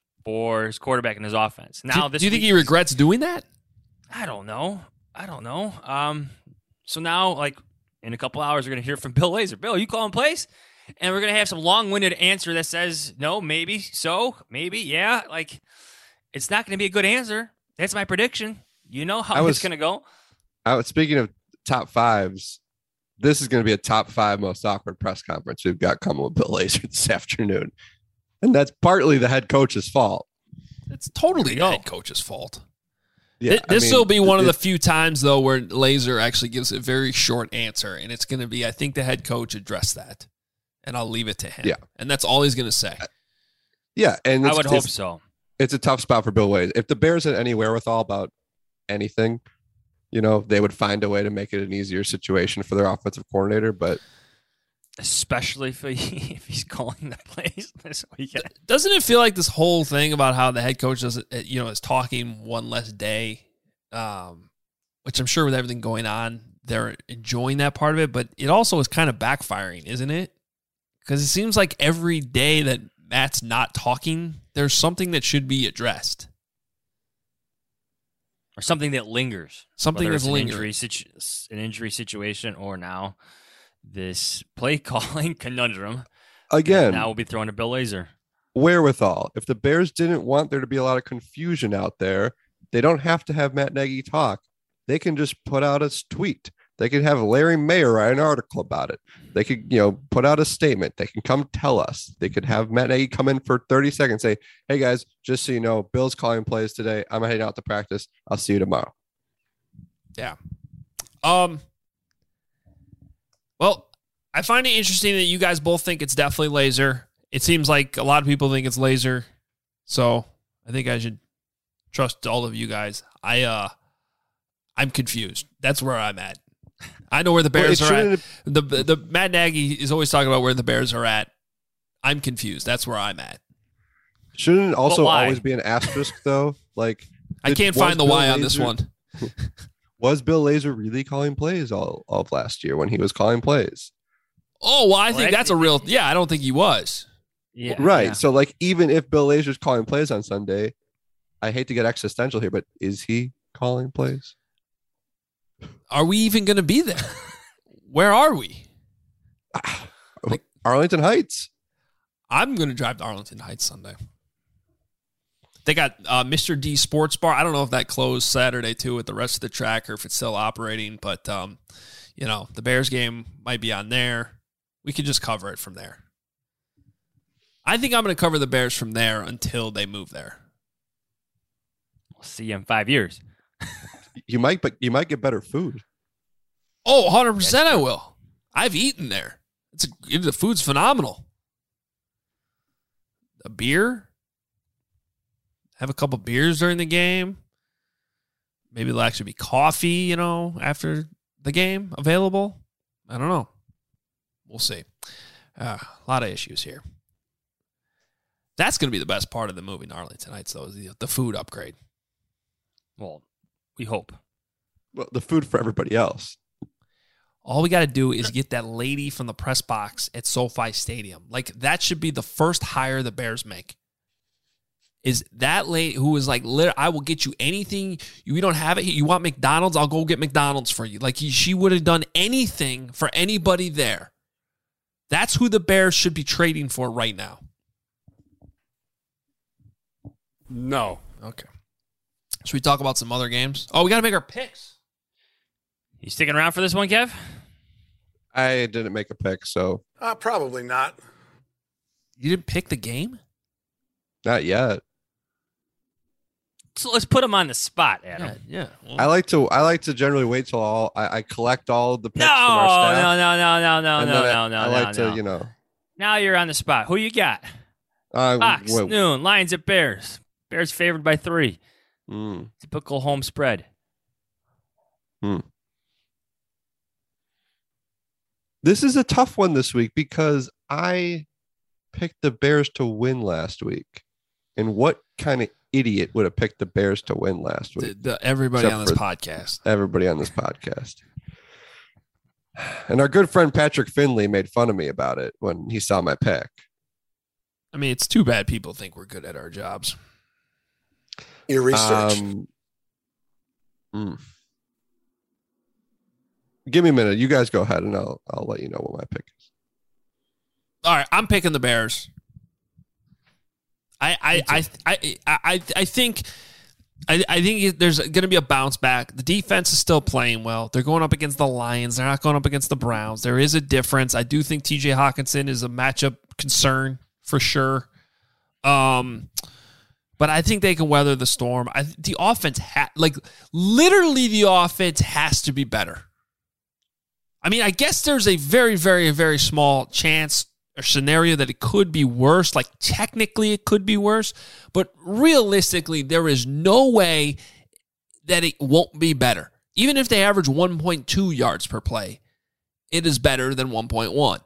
for his quarterback and his offense. Now, do, this do you think week, he regrets doing that? I don't know. I don't know. Um, so now, like in a couple hours, we're gonna hear from Bill Lazor. Bill, you calling plays? And we're gonna have some long-winded answer that says no, maybe, so, maybe, yeah. Like it's not gonna be a good answer. That's my prediction. You know how was, it's going to go? I was speaking of top fives. This is going to be a top five most awkward press conference we've got coming with Bill Lazor this afternoon. And that's partly the head coach's fault. It's totally the head coach's fault. Yeah, this I mean, will be one it, of the few times, though, where Lazor actually gives a very short answer. And it's going to be, I think the head coach addressed that. And I'll leave it to him. Yeah. And that's all he's going to say. Yeah. And I would hope so. It's a tough spot for Bill Lazor. If the Bears had any wherewithal about anything, you know, they would find a way to make it an easier situation for their offensive coordinator, but especially if, he, if he's calling the plays this weekend. Doesn't it feel like this whole thing about how the head coach does it, you know, is talking one less day, um, which I'm sure with everything going on, they're enjoying that part of it, but it also is kind of backfiring, isn't it? Because it seems like every day that Matt's not talking, there's something that should be addressed. Or something that lingers. Something that's an lingering. Injury situ- an injury situation or now this play calling conundrum. Again, now we'll be throwing to Bill Lazor. Wherewithal. If the Bears didn't want there to be a lot of confusion out there, they don't have to have Matt Nagy talk. They can just put out a tweet. They could have Larry Mayer write an article about it. They could, you know, put out a statement. They can come tell us. They could have Matt Nagy come in for thirty seconds, say, hey guys, just so you know, Bill's calling plays today. I'm heading out to practice. I'll see you tomorrow. Yeah. Um. Well, I find it interesting that you guys both think it's definitely laser. It seems like a lot of people think it's laser. So I think I should trust all of you guys. I, uh, I'm confused. That's where I'm at. I know where the Bears well, are at. The, the the Matt Nagy is always talking about where the Bears are at. I'm confused. That's where I'm at. Shouldn't it also always be an asterisk though? Like I can't find the Bill why Lazor, on this one. Was Bill Lazor really calling plays all, all of last year when he was calling plays? Oh, well, I think that's a real. Yeah, I don't think he was. Yeah, right. Yeah. So like even if Bill Lazor's calling plays on Sunday, I hate to get existential here, but is he calling plays? Are we even going to be there? Where are we? Like, Arlington Heights. I'm going to drive to Arlington Heights Sunday. They got uh, Mister D Sports Bar. I don't know if that closed Saturday too with the rest of the track or if it's still operating, but um, you know, the Bears game might be on there. We could just cover it from there. I think I'm going to cover the Bears from there until they move there. We'll see you in five years. You might, but you might get better food. Oh, one hundred percent I will. I've eaten there. It's a, the food's phenomenal. A beer. Have a couple beers during the game. Maybe there'll actually be coffee, you know, after the game available. I don't know. We'll see. Uh, a lot of issues here. That's going to be the best part of the movie, Arlington Heights, though, is the, the food upgrade. Well, we hope. Well, the food for everybody else. All we got to do is get that lady from the press box at SoFi Stadium. Like, that should be the first hire the Bears make. Is that lady who is like, I will get you anything. We don't have it. You want McDonald's? I'll go get McDonald's for you. Like, she would have done anything for anybody there. That's who the Bears should be trading for right now. No. Okay. Should we talk about some other games? Oh, we got to make our picks. You sticking around for this one, Kev? I didn't make a pick, so. Uh, probably not. You didn't pick the game? Not yet. So let's put them on the spot, Adam. Yeah. yeah. I like to. I like to generally wait till all. I, I collect all of the picks no, from our staff. No, no, no, no, no, no, I, no, no. I like no, to, no. you know. Now you're on the spot. Who you got? Uh, Fox, wait. noon, Lions at Bears. Bears favored by three. Mm. Typical home spread. Hmm. This is a tough one this week because I picked the Bears to win last week. And what kind of idiot would have picked the Bears to win last week? The, the, everybody Except on this for podcast. Everybody on this podcast. And our good friend Patrick Finley made fun of me about it when he saw my pick. I mean, it's too bad people think we're good at our jobs. Your research. Um, mm. Give me a minute. You guys go ahead, and I'll I'll let you know what my pick is. All right, I'm picking the Bears. I I I I I, I think I, I think there's going to be a bounce back. The defense is still playing well. They're going up against the Lions. They're not going up against the Browns. There is a difference. I do think T J Hawkinson is a matchup concern for sure. Um. But I think they can weather the storm. I, the offense, ha- like literally the offense has to be better. I mean, I guess there's a very, very, very small chance or scenario that it could be worse. Like technically it could be worse, but realistically there is no way that it won't be better. Even if they average one point two yards per play, it is better than one point one.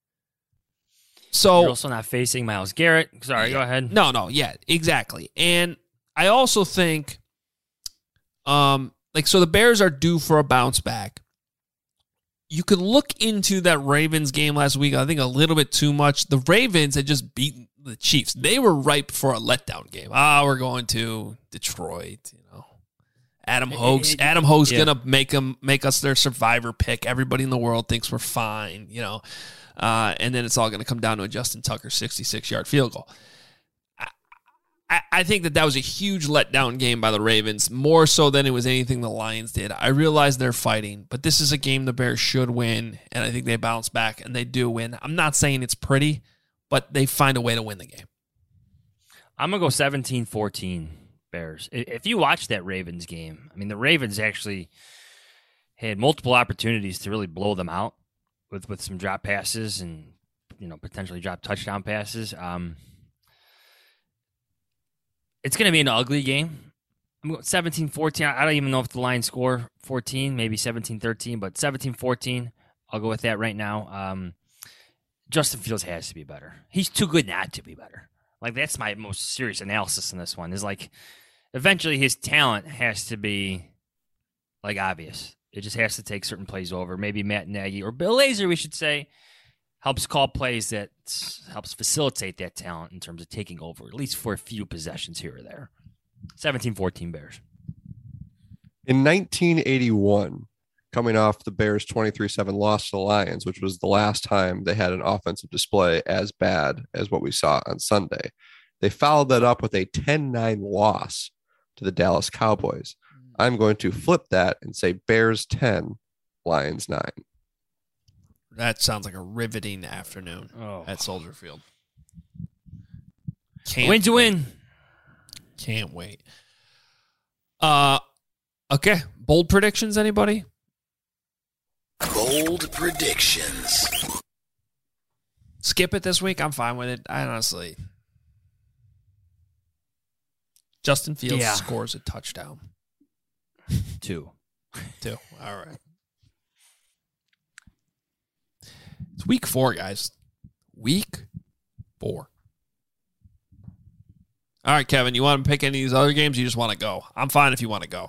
So you're also not facing Myles Garrett. Sorry, yeah, go ahead. No, no, yeah, exactly. And I also think, um, like, so the Bears are due for a bounce back. You can look into that Ravens game last week, I think a little bit too much. The Ravens had just beaten the Chiefs. They were ripe for a letdown game. Ah, we're going to Detroit, you know. Adam Hogue's Adam Hogue's yeah. gonna make them make us their survivor pick. Everybody in the world thinks we're fine, you know. Uh, and then it's all going to come down to a Justin Tucker sixty-six yard field goal. I, I, I think that that was a huge letdown game by the Ravens, more so than it was anything the Lions did. I realize they're fighting, but this is a game the Bears should win, and I think they bounce back, and they do win. I'm not saying it's pretty, but they find a way to win the game. I'm going to go seventeen fourteen Bears. If you watch that Ravens game, I mean, the Ravens actually had multiple opportunities to really blow them out with, with some drop passes and, you know, potentially drop touchdown passes. Um, it's going to be an ugly game. I'm going seventeen fourteen. I don't even know if the Lions score fourteen, maybe seventeen thirteen, but seventeen fourteen, I'll go with that right now. Um, Justin Fields has to be better. He's too good not to be better. Like, that's my most serious analysis in this one, is like, eventually his talent has to be, like, obvious. It just has to take certain plays over. Maybe Matt Nagy, or Bill Lazor, we should say, helps call plays that helps facilitate that talent in terms of taking over, at least for a few possessions here or there. seventeen fourteen Bears. In nineteen eighty-one, coming off the Bears' twenty-three seven loss to the Lions, which was the last time they had an offensive display as bad as what we saw on Sunday, they followed that up with a ten nine loss to the Dallas Cowboys. I'm going to flip that and say Bears ten, Lions nine. That sounds like a riveting afternoon oh. at Soldier Field. Can't win to win. Can't wait. Uh, okay. Bold predictions, anybody? Bold predictions. Skip it this week. I'm fine with it. I honestly. Justin Fields yeah. scores a touchdown. Two. Two. All right. It's week four, guys. Week four. All right, Kevin, you want to pick any of these other games? Or you just want to go? I'm fine if you want to go.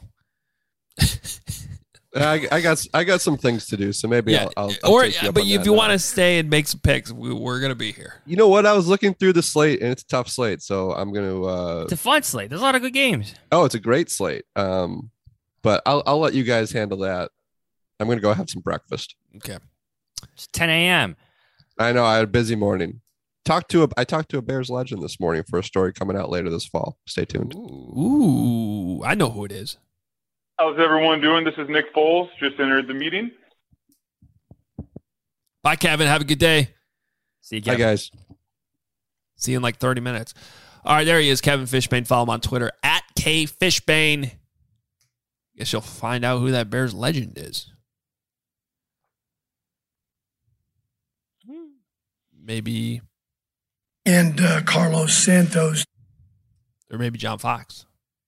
I, I got I got some things to do, so maybe yeah. I'll, I'll, I'll or take you up but on if that you now. want to stay and make some picks, we, we're gonna be here. You know what? I was looking through the slate, and it's a tough slate, so I'm gonna. Uh, it's a fun slate. There's a lot of good games. Oh, it's a great slate. Um, but I'll I'll let you guys handle that. I'm gonna go have some breakfast. Okay. It's ten a.m. I know. I had a busy morning. Talked to a I talked to a Bears legend this morning for a story coming out later this fall. Stay tuned. Ooh, I know who it is. How's everyone doing? This is Nick Foles. Just entered the meeting. Bye, Kevin. Have a good day. See you, Kevin. Bye, guys. See you in like thirty minutes. All right, there he is, Kevin Fishbane. Follow him on Twitter, at K Fishbane. Guess you'll find out who that Bears legend is. Maybe. And uh, Carlos Santos. Or maybe John Fox.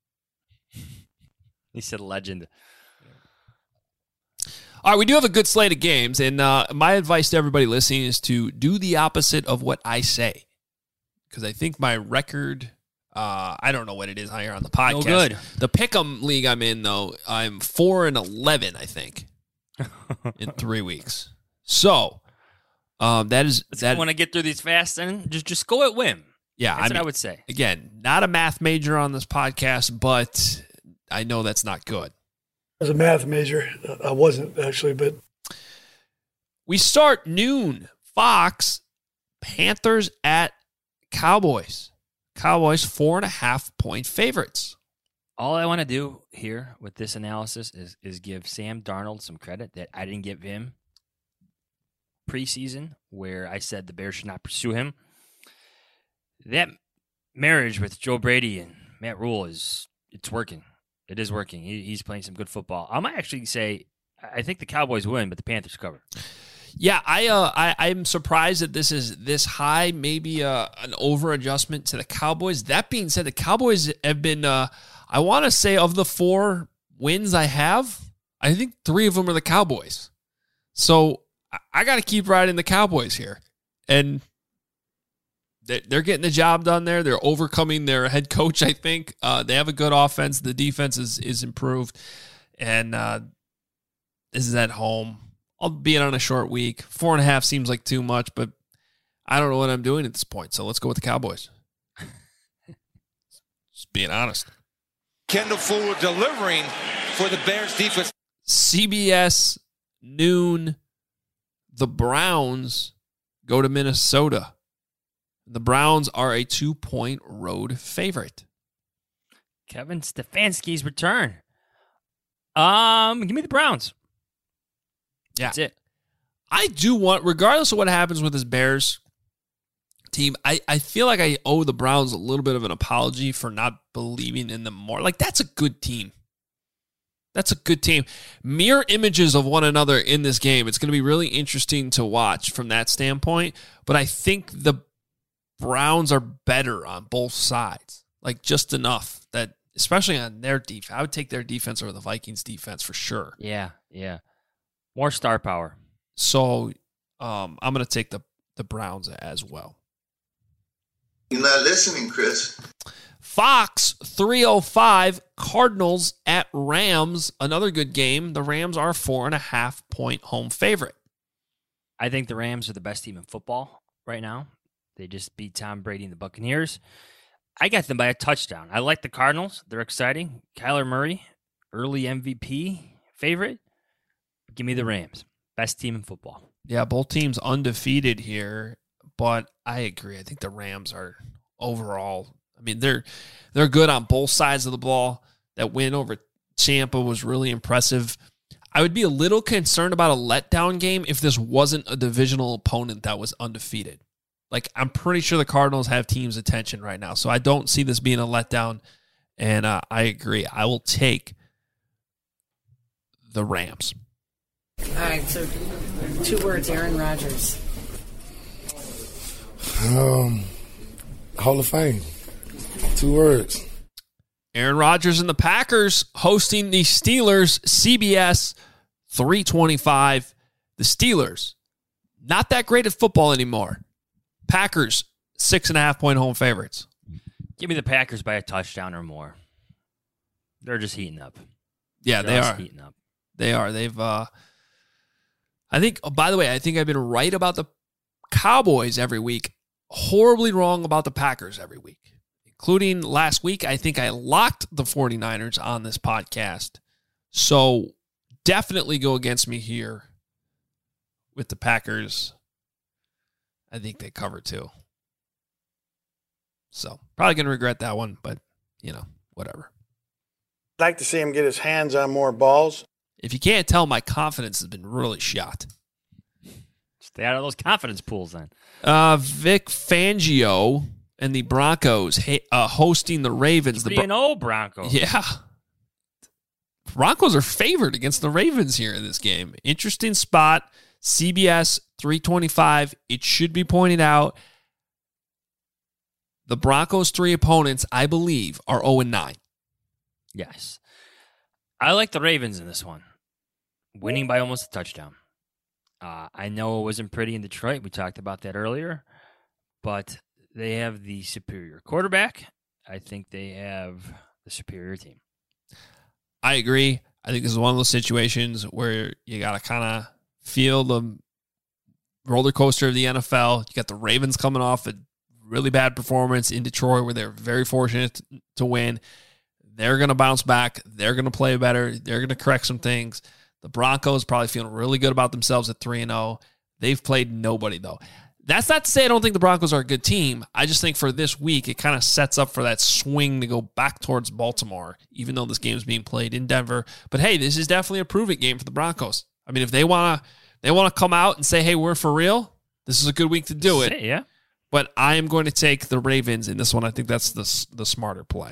He said legend. All right, we do have a good slate of games, and uh, my advice to everybody listening is to do the opposite of what I say, because I think my record, uh, I don't know what it is here on the podcast. No good. The Pick'em League I'm in, though, I'm four and eleven, I think, in three weeks. So um, that is Let's that. Want to get through these fast, and just just go at whim. Yeah, that's I what mean, I would say. Again, not a math major on this podcast, but I know that's not good. As a math major, I wasn't actually, but we start noon. Fox, Panthers at Cowboys. Cowboys four and a half point favorites. All I want to do here with this analysis is is give Sam Darnold some credit that I didn't give him preseason, where I said the Bears should not pursue him. That marriage with Joe Brady and Matt Rule is it's working. It is working. He, he's playing some good football. I might actually say I think the Cowboys win, but the Panthers cover. Yeah, I uh, I I'm surprised that this is this high. Maybe uh, an over adjustment to the Cowboys. That being said, the Cowboys have been. Uh, I want to say of the four wins I have, I think three of them are the Cowboys. So I, I got to keep riding the Cowboys here, and they're getting the job done there. They're overcoming their head coach, I think. Uh, they have a good offense. The defense is is improved. And uh, this is at home. Albeit on a short week. Four and a half seems like too much, but I don't know what I'm doing at this point. So let's go with the Cowboys. Just being honest. Kendall Fuller delivering for the Bears defense. C B S, noon. The Browns go to Minnesota. The Browns are a two-point road favorite. Kevin Stefanski's return. Um, give me the Browns. Yeah. That's it. I do want, regardless of what happens with this Bears team, I, I feel like I owe the Browns a little bit of an apology for not believing in them more. Like, that's a good team. That's a good team. Mirror images of one another in this game. It's going to be really interesting to watch from that standpoint. But I think the Browns are better on both sides. Like, just enough that, especially on their defense. I would take their defense over the Vikings defense for sure. Yeah, yeah. More star power. So um, I'm going to take the, the Browns as well. You're not listening, Chris. Fox three oh five, Cardinals at Rams. Another good game. The Rams are a four and a half point home favorite. I think the Rams are the best team in football right now. They just beat Tom Brady and the Buccaneers. I got them by a touchdown. I like the Cardinals. They're exciting. Kyler Murray, early M V P favorite. Give me the Rams. Best team in football. Yeah, both teams undefeated here, but I agree. I think the Rams are overall, I mean, they're they're good on both sides of the ball. That win over Tampa was really impressive. I would be a little concerned about a letdown game if this wasn't a divisional opponent that was undefeated. Like, I'm pretty sure the Cardinals have teams' attention right now, so I don't see this being a letdown, and uh, I agree. I will take the Rams. All right, so two words, Aaron Rodgers. Um, Hall of Fame. Two words. Aaron Rodgers and the Packers hosting the Steelers, C B S three twenty-five. The Steelers, not that great at football anymore. Packers, six and a half point home favorites. Give me the Packers by a touchdown or more. They're just heating up. Yeah, They're they are. heating up. They are. They've, uh, I think, oh, by the way, I think I've been right about the Cowboys every week, horribly wrong about the Packers every week. Including last week, I think I locked the 49ers on this podcast. So definitely go against me here with the Packers. I think they cover too. So probably going to regret that one, but, you know, whatever. I'd like to see him get his hands on more balls. If you can't tell, my confidence has been really shot. Stay out of those confidence pools then. Uh, Vic Fangio and the Broncos uh, hosting the Ravens. three the and oh Broncos. Yeah. Broncos are favored against the Ravens here in this game. Interesting spot. C B S three twenty-five. It should be pointed out the Broncos' three opponents, I believe, are oh and nine. Yes. I like the Ravens in this one. Winning by almost a touchdown. Uh, I know it wasn't pretty in Detroit. We talked about that earlier. But they have the superior quarterback. I think they have the superior team. I agree. I think this is one of those situations where you got to kind of feel the roller coaster of the N F L. You got the Ravens coming off a really bad performance in Detroit where they're very fortunate to win. They're going to bounce back. They're going to play better. They're going to correct some things. The Broncos probably feeling really good about themselves at three and oh. They've played nobody, though. That's not to say I don't think the Broncos are a good team. I just think for this week, it kind of sets up for that swing to go back towards Baltimore, even though this game is being played in Denver. But hey, this is definitely a prove-it game for the Broncos. I mean, if they want to they want to come out and say, hey, we're for real, this is a good week to do it. Yeah. But I am going to take the Ravens in this one. I think that's the, the smarter play.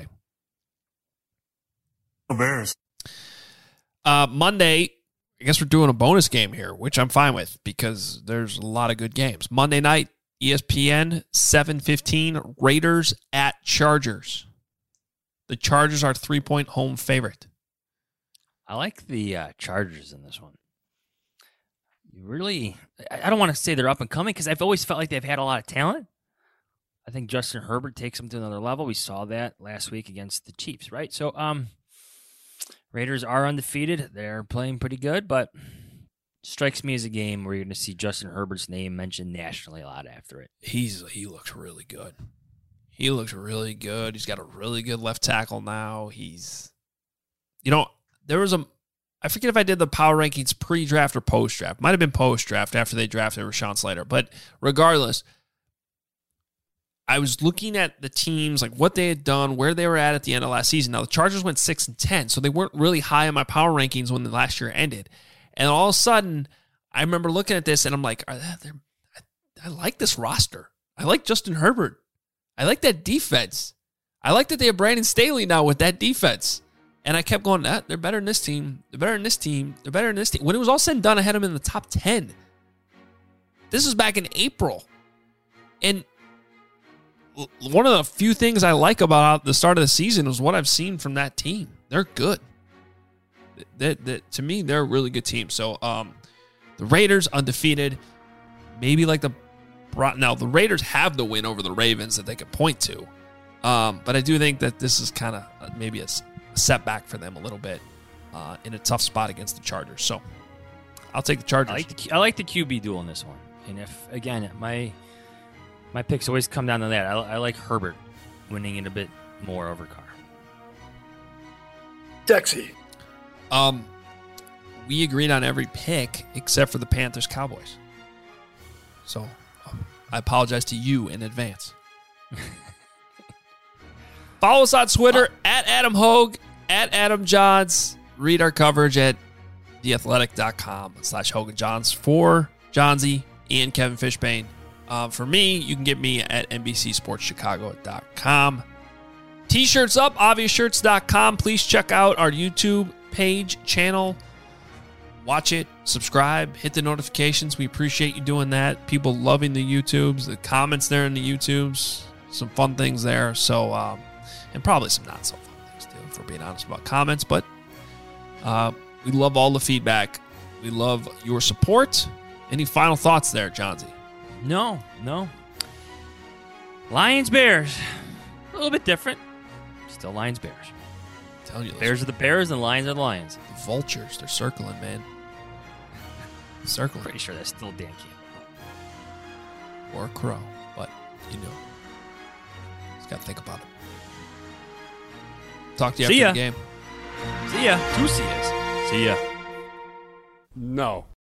Bears. Uh, Monday, I guess we're doing a bonus game here, which I'm fine with because there's a lot of good games. Monday night, E S P N, seven fifteen, Raiders at Chargers. The Chargers are three-point home favorite. I like the uh, Chargers in this one. You really, I don't want to say they're up and coming because I've always felt like they've had a lot of talent. I think Justin Herbert takes them to another level. We saw that last week against the Chiefs, right? So, um, Raiders are undefeated. They're playing pretty good, but strikes me as a game where you're going to see Justin Herbert's name mentioned nationally a lot after it. He's he looks really good. He looks really good. He's got a really good left tackle now. He's, you know, there was a, I forget if I did the power rankings pre-draft or post-draft. Might have been post-draft after they drafted Rashawn Slater. But regardless, I was looking at the teams, like what they had done, where they were at at the end of last season. Now, the Chargers went six and ten, so they weren't really high on my power rankings when the last year ended. And all of a sudden, I remember looking at this, and I'm like, Are they, I, I like this roster. I like Justin Herbert. I like that defense. I like that they have Brandon Staley now with that defense. And I kept going, ah, they're better than this team. They're better than this team. They're better than this team. When it was all said and done, I had them in the top ten. This was back in April. And one of the few things I like about the start of the season was what I've seen from that team. They're good. That, that, to me, they're a really good team. So um, the Raiders undefeated, maybe like the now the Raiders have the win over the Ravens that they could point to, um, but I do think that this is kind of maybe a, a setback for them a little bit uh, in a tough spot against the Chargers. So I'll take the Chargers. I like the, I like the Q B duel in this one, and if again my my picks always come down to that. I, I like Herbert winning it a bit more over Carr. Dexy. Um, we agreed on every pick except for the Panthers Cowboys. So um, I apologize to you in advance. Follow us on Twitter at Adam Hogue, at Adam Johns. Read our coverage at theathletic.com slash Hogan Johns for Johnsy and Kevin Fishbane. Uh, for me, you can get me at N B C Sports Chicago dot com. T-shirts up, obvious shirts dot com. Please check out our YouTube page, channel. Watch it, subscribe, hit the notifications. We appreciate you doing that. People loving the YouTubes, the comments there in the YouTubes. Some fun things there. So, um, and probably some not so fun things too, if we're being honest about comments. But uh, we love all the feedback. We love your support. Any final thoughts there, Johnsy? No, no. Lions, Bears. A little bit different. Still Lions, Bears. I'm telling you, Bears are the Bears and Lions are the Lions. The vultures, they're circling, man. Circling. Pretty sure that's still Dan Campbell. Or a crow, but you know. Just got to think about it. Talk to you See after ya. the game. See ya. Two see yas. See ya. No.